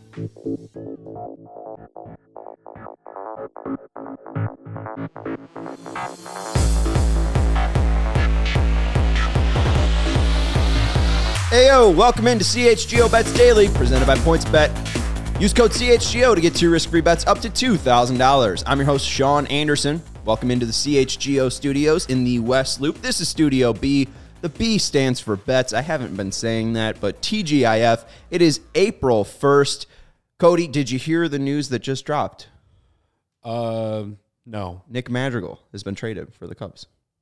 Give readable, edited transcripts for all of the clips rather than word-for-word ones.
Heyo, welcome into CHGO Bets Daily, presented by PointsBet. Use code CHGO to get 2 risk-free bets up to $2,000. I'm your host, Sean Anderson. Welcome into the CHGO studios in the West Loop. This is Studio B. The B stands for bets. I haven't been saying that, but TGIF. It is April 1st. Cody, did you hear the news that just dropped? No. Nick Madrigal has been traded for the Cubs.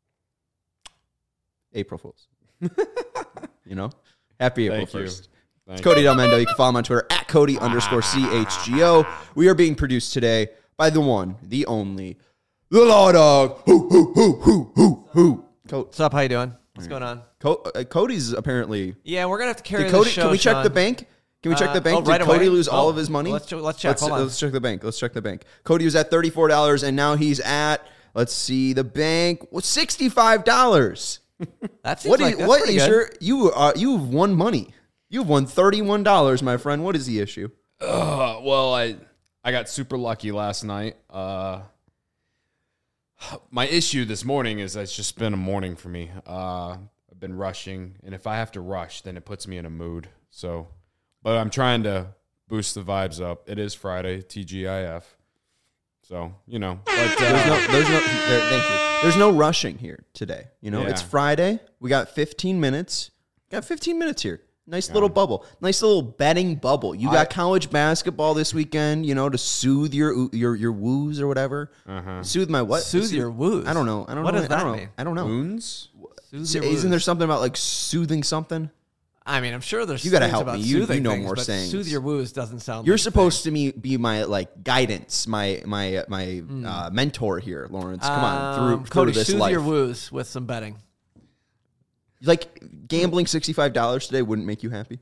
April Fools. You know? Happy April 1st. It's Cody Del Mendo. You can follow him on Twitter at Cody_CHGO. We are being produced today by the one, the only, the Law Dog. Who. What's up? How you doing? What's going on? Cody's apparently. Yeah, we're gonna have to carry Cody, this show. Can we check Sean. the bank? Can we check the bank? Right Did Cody away? lose all of his money? Let's check. Hold on. Let's check the bank. Let's check the bank. Cody was at $34, and now he's at. Let's see the bank. $65. That seems like that's pretty good. You've won money. You've won $31, my friend. What is the issue? Well, I got super lucky last night. My issue this morning is it's just been a morning for me. I've been rushing, and if I have to rush, then it puts me in a mood. So, but I'm trying to boost the vibes up. It is Friday, TGIF. So, you know. But, Thank you. There's no rushing here today. You know, Yeah. It's Friday. We got 15 minutes. Got 15 minutes here. Nice little bubble. Nice little betting bubble. You got college basketball this weekend, you know, to soothe your woos or whatever. Soothe my what? Soothe your woos. I don't know. What does that mean? I don't know. Wounds? Isn't there something about like soothing something? I mean, I'm sure there's. You gotta things help about me. You soothing know things, more but sayings. Soothe your woos doesn't sound. You're like supposed to be my like guidance, my mentor here, Lawrence. Come on, through Cody, this soothe life. your woos with some betting. Like gambling $65 today wouldn't make you happy.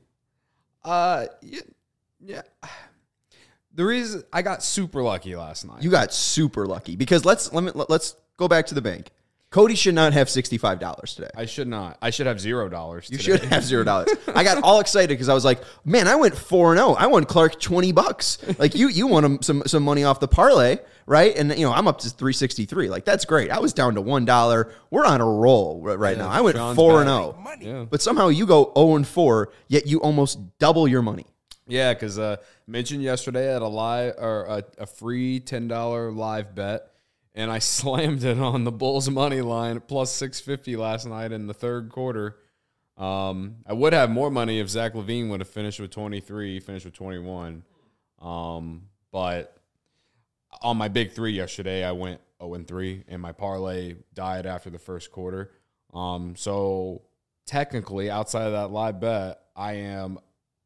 Yeah. The reason I got super lucky last night. You got super lucky because let's go back to the bank. Cody should not have $65 today. I should not. I should have $0. You should have $0. I got all excited because I was like, man, I went 4-0. I won Clark $20. Like you won him some money off the parlay, right? And you know, I'm up to 363. Like that's great. I was down to $1. We're on a roll right now. I went Sean's 4-0. Yeah. But somehow you go 0-4, yet you almost double your money. Yeah, because mentioned yesterday I had a free $10 live bet, and I slammed it on the Bulls money line plus 650 last night in the third quarter. I would have more money if Zach LaVine would have finished with 23. He finished with 21. But on my big three yesterday, I went 0-3, and my parlay died after the first quarter. So technically, outside of that live bet, I am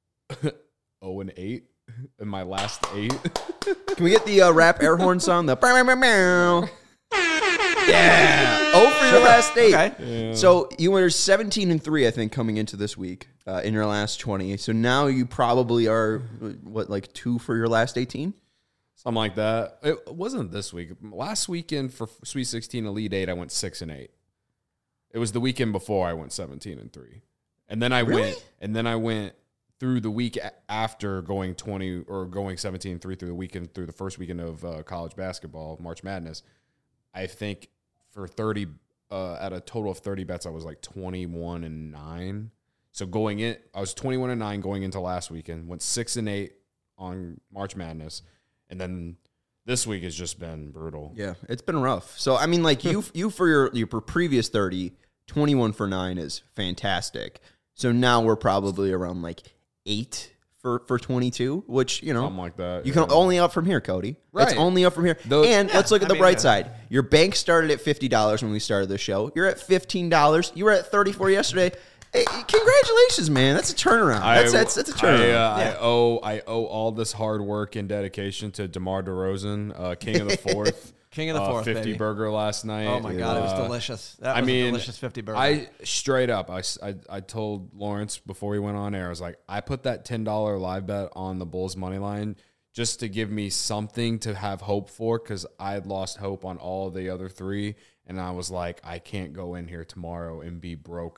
0-8 in my last 8. Can we get the rap air horn song? The bow, bow, bow, bow. Yeah. Oh, for your last 8. Okay. Yeah. So you were 17-3, I think, coming into this week in your last 20. So now you probably are like 2 for your last 18. Something like that. It wasn't this week. Last weekend for Sweet 16 Elite 8, I went 6-8. It was the weekend before I went 17-3. And then I went through the week after going 20 or going 17-3 through the first weekend of college basketball, March Madness. I think for 30 at a total of 30 bets, I was like 21-9. So going in, I was 21-9 going into last weekend. Went 6-8 on March Madness, and then this week has just been brutal. Yeah, it's been rough. So I mean, like you for your previous 30, 21 for 9 is fantastic. So now we're probably around like 8 for 22, which, you know, Something like that. You can only up from here, Cody. Right. It's only up from here. Let's look at the bright side. Your bank started at $50 when we started the show. You're at $15. You were at 34 yesterday. Hey, congratulations, man. That's a turnaround. That's a turnaround. I owe all this hard work and dedication to DeMar DeRozan, King of the Fourth. King of the Fourth, 50 baby. burger last night. Oh my God, it was delicious. That was a delicious 50 burger. I straight up, I told Lawrence before we went on air, I was like, I put that $10 live bet on the Bulls money line just to give me something to have hope for, because I had lost hope on all the other 3, and I was like, I can't go in here tomorrow and be broke.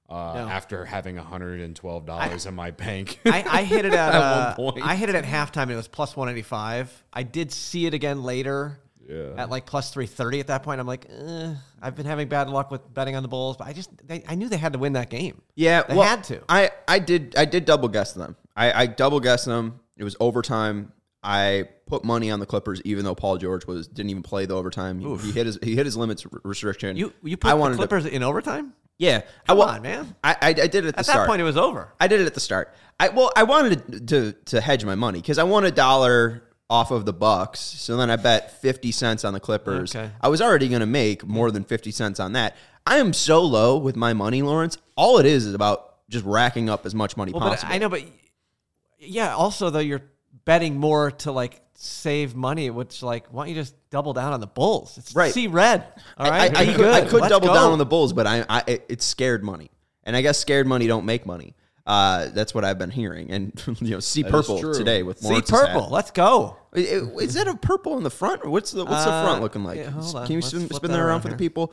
after having $112 in my bank. I hit it at, at one point. I hit it at halftime, and it was plus 185. I did see it again later at like plus 330 at that point. I'm like, I've been having bad luck with betting on the Bulls, but I knew they had to win that game. Yeah, they had to. I did double guess them. I double guessed them. It was overtime. I put money on the Clippers, even though Paul George didn't even play the overtime. He hit his limits restriction. You put the Clippers in overtime? Yeah, come on, man. I did it at the start. At that point, it was over. I did it at the start. I wanted to hedge my money because I won $1 off of the Bucks. So then I bet 50 cents on the Clippers. Okay. I was already going to make more than 50 cents on that. I am so low with my money, Lawrence. All it is about just racking up as much money possible. But I know, but yeah. Also, though, you're betting more to like save money, which like, why don't you just double down on the Bulls? It's right. See red. All right, I could Let's double go. down on the Bulls, but it's scared money, and I guess scared money don't make money. That's what I've been hearing, and see purple today with Lawrence's See purple. hat. Let's go. Is that a purple in the front? Or what's the front looking like? Yeah, hold on. Can you Let's spin flip that that around around for the here. people?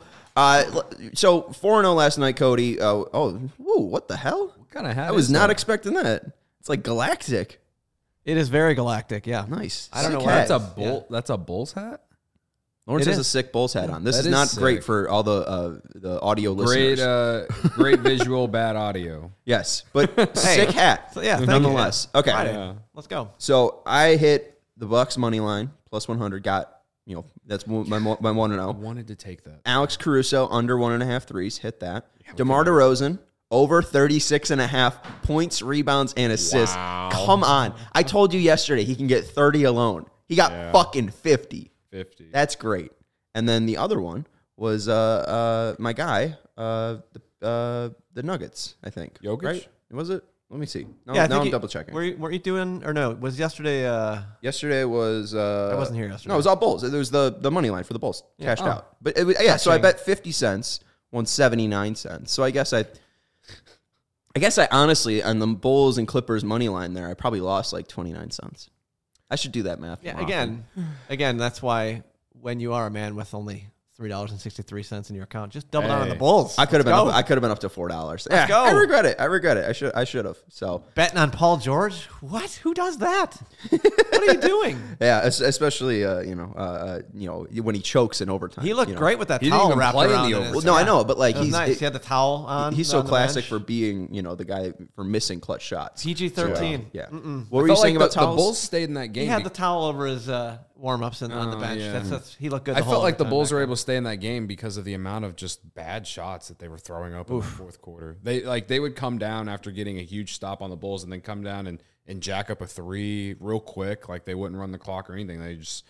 So 4-0 last night, Cody. What the hell? What kind of hat? I was is not that? expecting that. It's like galactic. It is very galactic. Yeah. Nice. I don't know Sick why hat. That's a bull. That's a Bull's hat. Lawrence It has a is. sick Bulls hat on. This That is is not sick. great for all the audio Great, listeners. great visual, bad audio. Yes, but sick hat. So, yeah, thank nonetheless. you. Okay. Friday. Yeah. Let's go. So I hit the Bucks money line plus 100. Got that's my 1-0. I wanted to take that. Alex Caruso under 1.5 threes. Hit that. DeMar DeRozan over 36.5 points, rebounds, and assists. Wow. Come on. I told you yesterday he can get 30 alone. He got fucking 50. 50. That's great. And then the other one was my guy, the Nuggets, I think. Jokic? Right? Was it? Let me see. No, Yeah, I now think I'm double checking. Were you doing, or no? Was yesterday? Yesterday was I wasn't here yesterday. No, it was all Bulls. It was the money line for the Bulls. Cashed Oh. out. But it was, so I Catching. bet 50 cents, won 79 cents. So I guess I honestly on the Bulls and Clippers money line there, I probably lost like 29 cents. I should do that math. Yeah. more often. Again, that's why when you are a man with only $3.63 in your account, just double down on the Hey. Bulls. I could have Let's been. go. I could have been up to $4. Yeah, go. I regret it. I should have. So Betting on Paul George? What? Who does that? What are you doing? yeah, especially when he chokes in overtime. He looked great with that He didn't towel even wrapped play in around. the in overtime. his- Well, no, I know, but like It was he's nice. He had the towel on. he's so on the classic bench. for being the guy for missing clutch shots. PG-13. Yeah. What I were you felt saying like about the towels? Bulls stayed in that game. He had the towel over his warm-ups on the bench. yeah. That's he looked good. I The felt whole like the time Bulls back were there. able to stay in that game because of the amount of just bad shots that they were throwing up in the fourth quarter. They would come down after getting a huge stop on the Bulls and then come down and jack up a three real quick. Like they wouldn't run the clock or anything. They just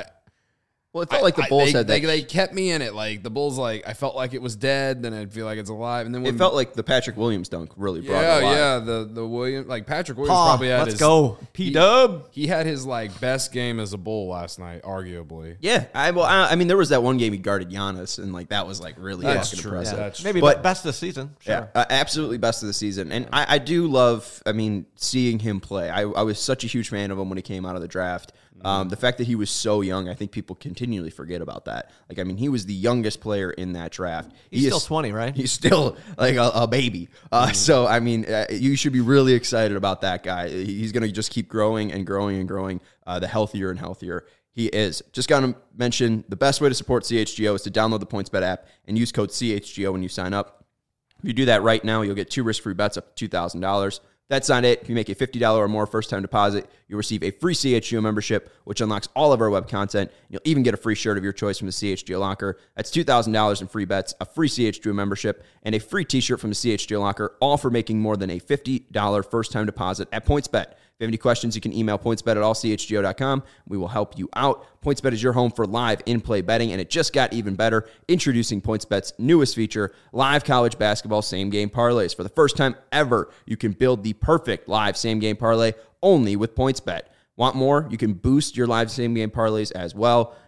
Well, it felt like the Bulls had that. They kept me in it. Like the Bulls, like I felt like it was dead. Then I'd feel like it's alive. And then when It felt like the Patrick Williams dunk really brought it alive. the William, like Patrick Williams Paw, probably had let's his go. P-Dub. He had his like best game as a Bull last night, arguably. Yeah, I mean, there was that one game he guarded Giannis, and like that was like really That's fucking true. impressive. That's Maybe But- best of the season. Sure. Yeah, absolutely best of the season. And I do love, seeing him play. I was such a huge fan of him when he came out of the draft. The fact that he was so young, I think people continually forget about that. Like, I mean, he was the youngest player in that draft. He's still 20, right? He's still like a baby. So, I mean, you should be really excited about that guy. He's going to just keep growing and growing and growing, the healthier and healthier he is. Just got to mention, the best way to support CHGO is to download the PointsBet app and use code CHGO when you sign up. If you do that right now, you'll get 2 risk-free bets up to $2,000. That's not it. If you make a $50 or more first-time deposit, you'll receive a free CHGO membership, which unlocks all of our web content. You'll even get a free shirt of your choice from the CHGO Locker. That's $2,000 in free bets, a free CHGO membership, and a free t-shirt from the CHGO Locker, all for making more than a $50 first-time deposit at PointsBet. If you have any questions, you can email pointsbet@allchgo.com. We will help you out. PointsBet is your home for live in-play betting, and it just got even better. Introducing PointsBet's newest feature, live college basketball same-game parlays. For the first time ever, you can build the perfect live same-game parlay only with PointsBet. Want more? You can boost your live same-game parlays as well.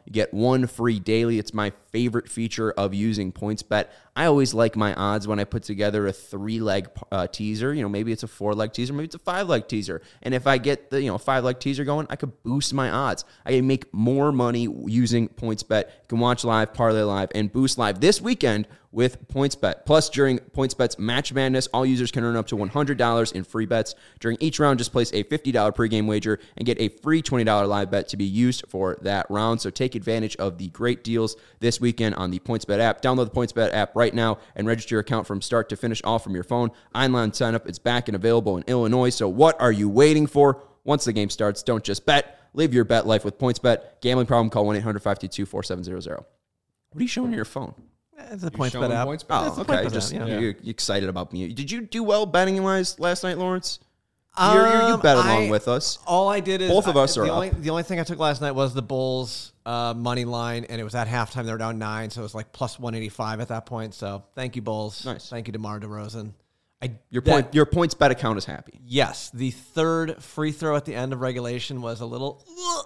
You get one free daily. It's my favorite feature of using PointsBet. I always like my odds when I put together a 3-leg teaser. Maybe it's a 4-leg teaser, maybe it's a 5-leg teaser. And if I get the 5-leg teaser going, I could boost my odds. I can make more money using PointsBet. You can watch live, parlay live, and boost live this weekend with PointsBet. Plus, during PointsBet's Match Madness, all users can earn up to $100 in free bets. During each round, just place a $50 pregame wager and get a free $20 live bet to be used for that round. So take advantage of the great deals this weekend on the PointsBet app. Download the PointsBet app right now and register your account from start to finish, all from your phone. Online sign-up is back and available in Illinois. So what are you waiting for? Once the game starts, don't just bet. Live your bet life with PointsBet. Gambling problem, call 1-800-522-4700. What are you showing on your phone? It's a PointsBet app. Oh, okay. Just you're excited about me. Did you do well betting-wise last night, Lawrence? You bet along with us. All I did is both of us are up. The only thing I took last night was the Bulls money line, and it was at halftime. They were down 9, so it was like plus 185 at that point. So thank you, Bulls. Nice. Thank you, DeMar DeRozan. Your PointsBet account is happy. Yes, the third free throw at the end of regulation was a little.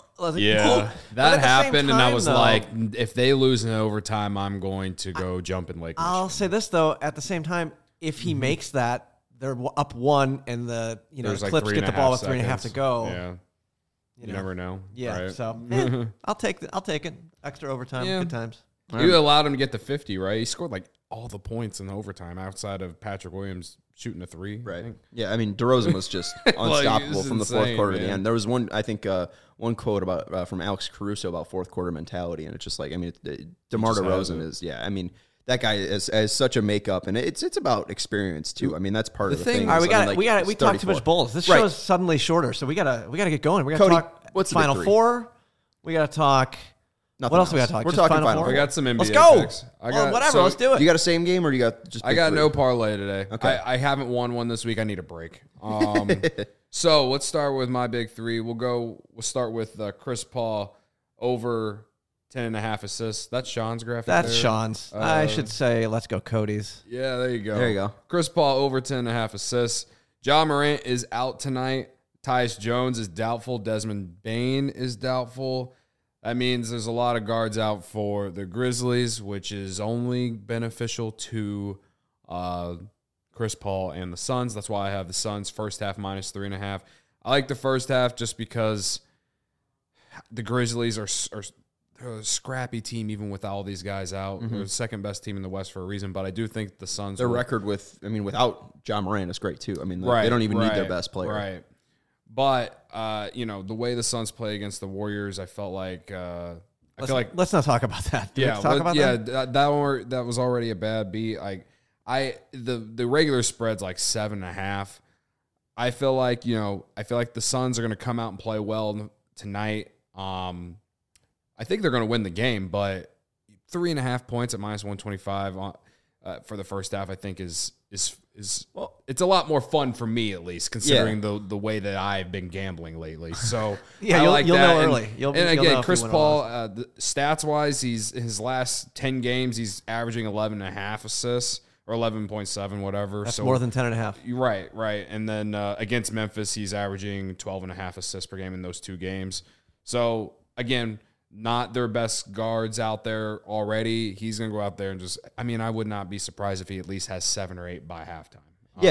That happened, and I was like, if they lose in overtime, I'm going to go jump in Lake Michigan. I'll say this though: at the same time, if he makes that, they're up 1, and the Clips get the ball with 3.5 to go. Yeah, you never know. Yeah, right? So I'll take it. Extra overtime, good times. You allowed him to get to 50, right? He scored like all the points in the overtime outside of Patrick Williams shooting a 3. Right. Yeah, I mean, DeRozan was just unstoppable from the fourth quarter to the end. There was one quote about from Alex Caruso about fourth quarter mentality, and it's just like, I mean, DeMar DeRozan is, I mean, that guy has such a makeup, and it's about experience too. I mean, that's part of the thing. All right, we talked too much Bulls. This show is suddenly shorter, so we gotta get going. We gotta talk. What's the Final Four? We gotta talk. Nothing what else we got to talk? We're talking Final Four. We got some NBA Let's go. picks. Whatever. Let's do it. You got a same game, or you got just? I got no parlay today. Okay. I haven't won one this week. I need a break. So let's start with my big 3. We'll start with Chris Paul over 10.5 assists. That's Sean's graphic. That's there. Sean's. I should say, let's go, Cody's. Yeah, there you go. There you go. Chris Paul over 10.5 assists. Ja Morant is out tonight. Tyus Jones is doubtful. Desmond Bane is doubtful. That means there's a lot of guards out for the Grizzlies, which is only beneficial to Chris Paul and the Suns. That's why I have the Suns first half minus 3.5. I like the first half just because the Grizzlies are a scrappy team even with all these guys out. They're the second best team in the West for a reason, but I do think the Suns. Their record without Ja Morant is great too. I mean, they don't even need their best player. Right. But, the way the Suns play against the Warriors, I felt like let's not talk about that. That was already a bad beat. The regular spread's like 7.5. I feel like the Suns are going to come out and play well tonight. I think they're going to win the game, but 3.5 points at minus 125 for the first half, I think is it's a lot more fun for me, at least, considering the way that I've been gambling lately. So you'll know early. Again, Chris Paul, stats wise, his last 10 games, he's averaging 11.5 assists or 11.7, whatever. That's more than 10.5. Right. And then against Memphis, he's averaging 12.5 assists per game in those 2 games. So again, not their best guards out there already. He's going to go out there and I would not be surprised if he at least has 7 or 8 by halftime.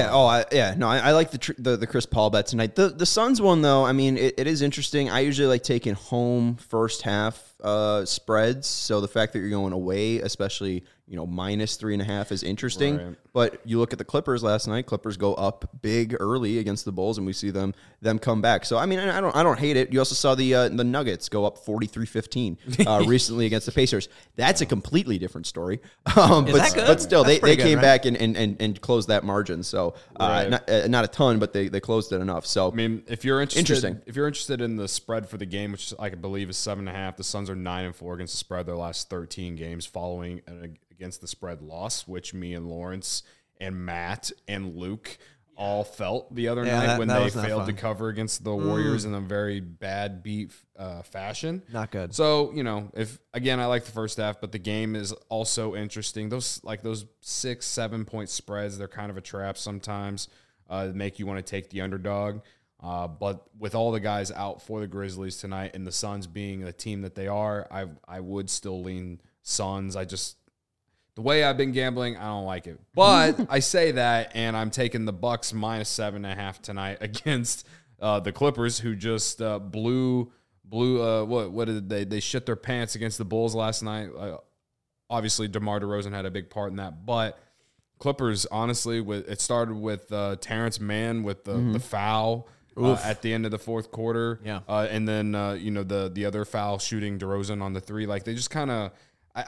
I like the Chris Paul bet tonight. The Suns one, though, I mean, it is interesting. I usually like taking home first half spreads. So the fact that you're going away, especially, minus 3.5 is interesting. Right. But you look at the Clippers last night. Clippers go up big early against the Bulls, and we see them come back. So I mean, I don't hate it. You also saw the Nuggets go up 43-15 recently against the Pacers. That's a completely different story. But still, they came back and closed that margin. So not a ton, but they closed it enough. So I mean, if you're interested in the spread for the game, which I believe is 7.5, the Suns are 9-4 against the spread their last 13 games following against the spread loss, which me and Lawrence and Matt and Luke all felt the other night when they failed to cover against the Warriors in a very bad beat fashion. Not good. So, I like the first half, but the game is also interesting. Those 6-7 point spreads, they're kind of a trap sometimes. Make you want to take the underdog. But with all the guys out for the Grizzlies tonight and the Suns being the team that they are, I would still lean Suns. The way I've been gambling, I don't like it. But I say that, and I'm taking the Bucks minus 7.5 tonight against the Clippers, who just blew what did they shit their pants against the Bulls last night. Obviously, DeMar DeRozan had a big part in that, but Clippers, honestly, it started with Terrence Mann with the foul at the end of the fourth quarter, and then the other foul shooting DeRozan on the three. Like they just kind of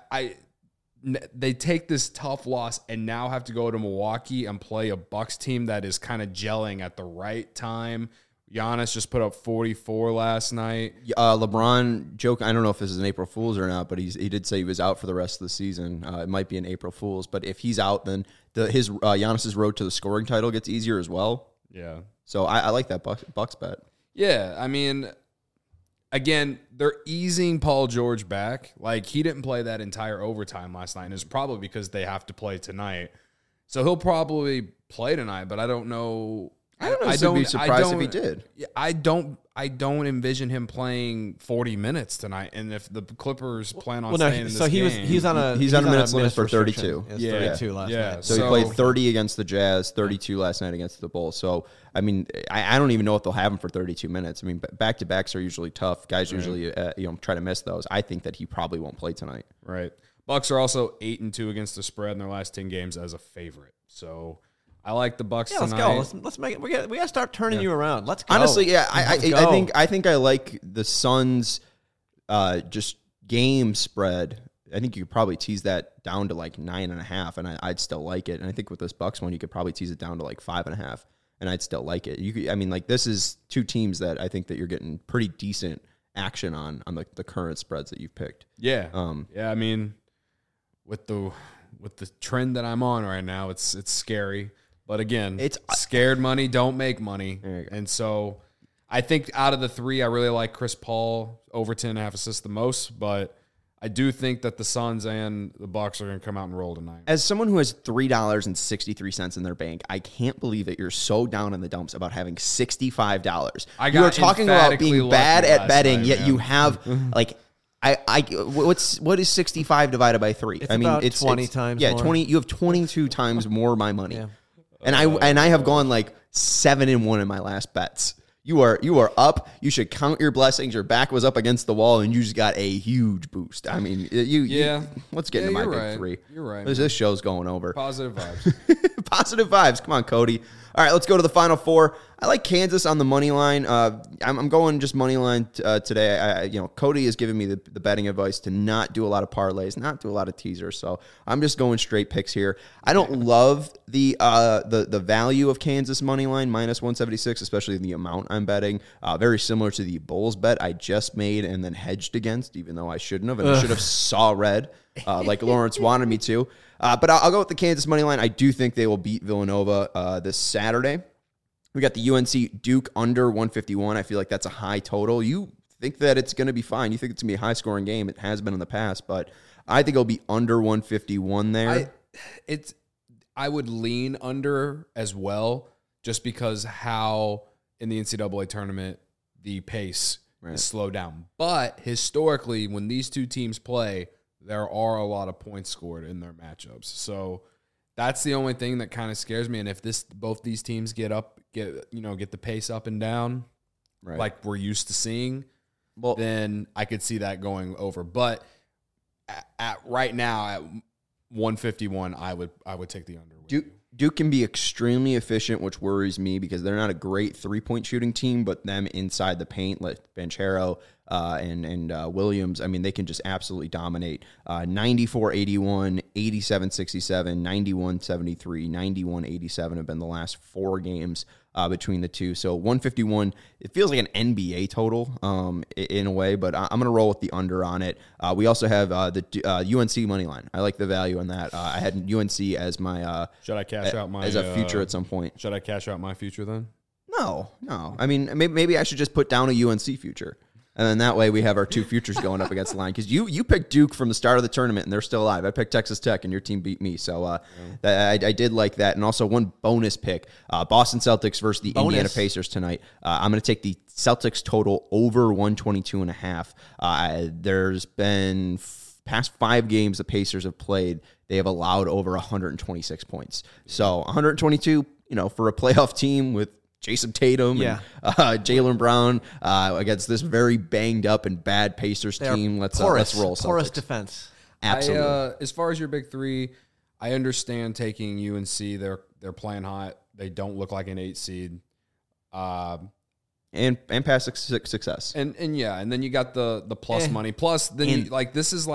they take this tough loss and now have to go to Milwaukee and play a Bucks team that is kind of gelling at the right time. Giannis just put up 44 last night. LeBron joke. I don't know if this is an April Fool's or not, but he did say he was out for the rest of the season. It might be an April Fool's, but if he's out, then Giannis's road to the scoring title gets easier as well. Yeah. So I like that Bucks bet. Yeah, I mean, again, they're easing Paul George back. Like, he didn't play that entire overtime last night, and it's probably because they have to play tonight. So he'll probably play tonight, but I don't know. I'd be surprised if he did. I don't envision him playing 40 minutes tonight. And if the Clippers plan on staying in this game, he's on a minutes limit for 32. 32 last night. So he played 30 against the Jazz, 32 last night against the Bulls. So I mean, I don't even know if they'll have him for 32 minutes. I mean, back-to-backs are usually tough. Guys usually try to miss those. I think that he probably won't play tonight. Right. Bucks are also 8-2 against the spread in their last 10 games as a favorite. So I like the Bucks tonight. Let's go. Let's make it. We got to start turning you around. Let's go. Honestly, yeah, I think I like the Suns just game spread. I think you could probably tease that down to like 9.5, and I'd still like it. And I think with this Bucks one, you could probably tease it down to like 5.5, and I'd still like it. This is two teams that I think that you're getting pretty decent action on the current spreads that you've picked. Yeah. I mean, with the trend that I'm on right now, it's scary. But again, it's scared money don't make money. And so I think out of the three, I really like Chris Paul over 10.5 assists the most. But I do think that the Suns and the Bucks are going to come out and roll tonight. As someone who has $3.63 in their bank, I can't believe that you're so down in the dumps about having $65. You are talking about being bad at betting, yet you have like what is 65 divided by 3? It's 20 times. Yeah, more. 20. You have 22 times more my money. Yeah. And I have gone like 7-1 in my last bets. You are up. You should count your blessings. Your back was up against the wall, and you just got a huge boost. I mean, let's get into my big three. You're right. This show's going over. Positive vibes. Positive vibes. Come on, Cody. All right, let's go to the final four. I like Kansas on the money line. I'm going just money line today. Cody has given me the betting advice to not do a lot of parlays, not do a lot of teasers. So I'm just going straight picks here. I don't love the value of Kansas money line minus 176, especially the amount I'm betting. Very similar to the Bulls bet I just made and then hedged against, even though I shouldn't have, and I should have saw red like Lawrence wanted me to. But I'll go with the Kansas money line. I do think they will beat Villanova this Saturday. We got the UNC Duke under 151. I feel like that's a high total. You think that it's going to be fine. You think it's going to be a high-scoring game. It has been in the past, but I think it'll be under 151 there. I would lean under as well, just because how in the NCAA tournament the pace is slowed down. But historically, when these two teams play, there are a lot of points scored in their matchups. So that's the only thing that kind of scares me. And if both these teams get the pace up and down, like we're used to seeing, then I could see that going over. But at right now at 151, I would take the under. Duke can be extremely efficient, which worries me because they're not a great three-point shooting team, but them inside the paint, like Banchero and Williams, I mean, they can just absolutely dominate. 94-81, 87-67, 91-73, 91-87 have been the last 4 games between the two. So 151, it feels like an NBA total in a way, but I'm going to roll with the under on it. We also have the UNC money line. I like the value on that. I had UNC as my should I cash out my as a future at some point. Should I cash out my future then? No. I mean, maybe I should just put down a UNC future. And then that way we have our two futures going up against the line. Because you picked Duke from the start of the tournament, and they're still alive. I picked Texas Tech, and your team beat me. So I did like that. And also one bonus pick, Boston Celtics versus the Indiana Pacers tonight. I'm going to take the Celtics total over 122.5. There's been past 5 games the Pacers have played, they have allowed over 126 points. So 122, for a playoff team with Jason Tatum and Jaylen Brown against this very banged up and bad Pacers team. Let's roll Celtics. Porous defense. Absolutely. As far as your big three, I understand taking UNC. They're playing hot. They don't look like an 8 seed. And past success. And then you got the plus money. Plus, then this is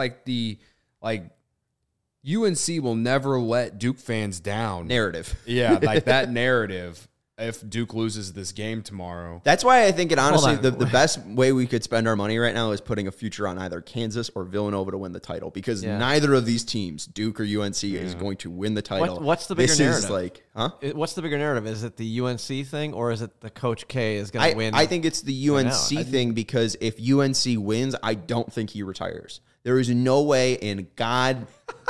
UNC will never let Duke fans down. Narrative. Yeah, like that narrative. If Duke loses this game tomorrow. That's why I think the best way we could spend our money right now is putting a future on either Kansas or Villanova to win the title, because neither of these teams, Duke or UNC, is going to win the title. What's the bigger narrative? What's the bigger narrative? Is it the UNC thing, or is it the Coach K is going to win? I think it's the UNC thing, because if UNC wins, I don't think he retires. There is no way in God's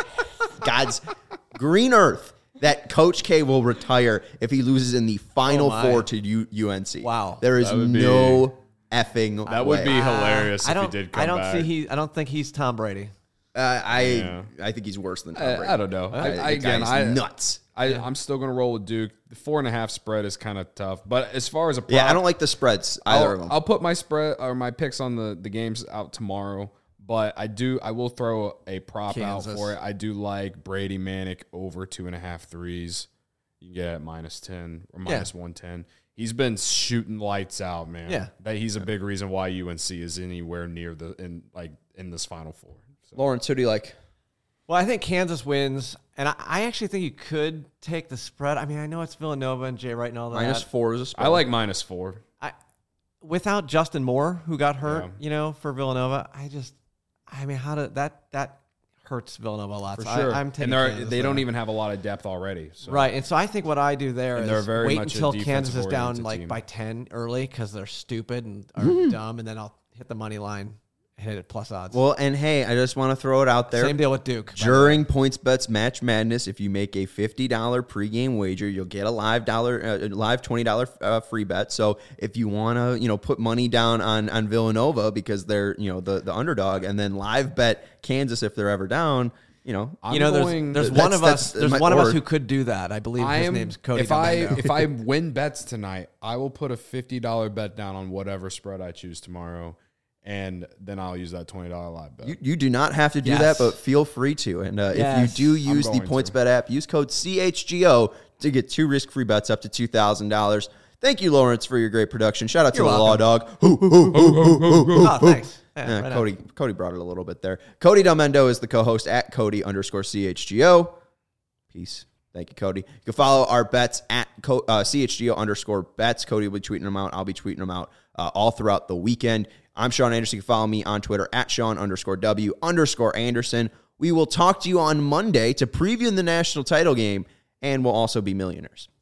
green earth that Coach K will retire if he loses in the Final Four to UNC. Wow. There is no effing way. That would be hilarious if he did come back. I don't think he's Tom Brady. I think he's worse than Tom Brady. I don't know. He's nuts. I'm still going to roll with Duke. The 4.5 spread is kind of tough. But as far as a prop, I don't like the spreads, either of them. I'll put my spread or my picks on the games out tomorrow. But I will throw a prop out for it. I do like Brady Manick over 2.5 threes. You can get it -10 or -110. He's been shooting lights out, man. Yeah. He's a big reason why UNC is anywhere near in this Final Four. So. Lawrence, who do you like? Well, I think Kansas wins, and I actually think you could take the spread. I mean, I know it's Villanova and Jay Wright and all that. -4 is a spread. I like -4. Without Justin Moore, who got hurt, for Villanova, that hurts Villanova a lot. For so sure. I'm taking and they don't even have a lot of depth already. So. Right, and so I think what I do there is wait until Kansas is down team. by 10 early because they're stupid and are dumb, and then I'll hit the money line, hit it plus odds. Well, and hey, I just want to throw it out there. Same deal with Duke. During PointsBet's Match Madness, if you make a $50 pregame wager, you'll get a live $20 free bet. So if you want to, put money down on Villanova because they're, the underdog, and then live bet Kansas if they're ever down, there's one of us who could do that. I believe his name's Cody. If I win bets tonight, I will put a $50 bet down on whatever spread I choose tomorrow. And then I'll use that $20 live bet. You do not have to do that, but feel free to. And if you do use the PointsBet app, use code CHGO to get 2 risk-free bets up to $2,000. Thank you, Lawrence, for your great production. Shout out to the Law Dog. Oh, thanks. Yeah, Cody brought it a little bit there. Cody Delmendo is the co-host at Cody_CHGO. Peace. Thank you, Cody. You can follow our bets at CHGO_bets. Cody will be tweeting them out. I'll be tweeting them out all throughout the weekend. I'm Sean Anderson. You can follow me on Twitter at Sean_W_Anderson. We will talk to you on Monday to preview the national title game, and we'll also be millionaires.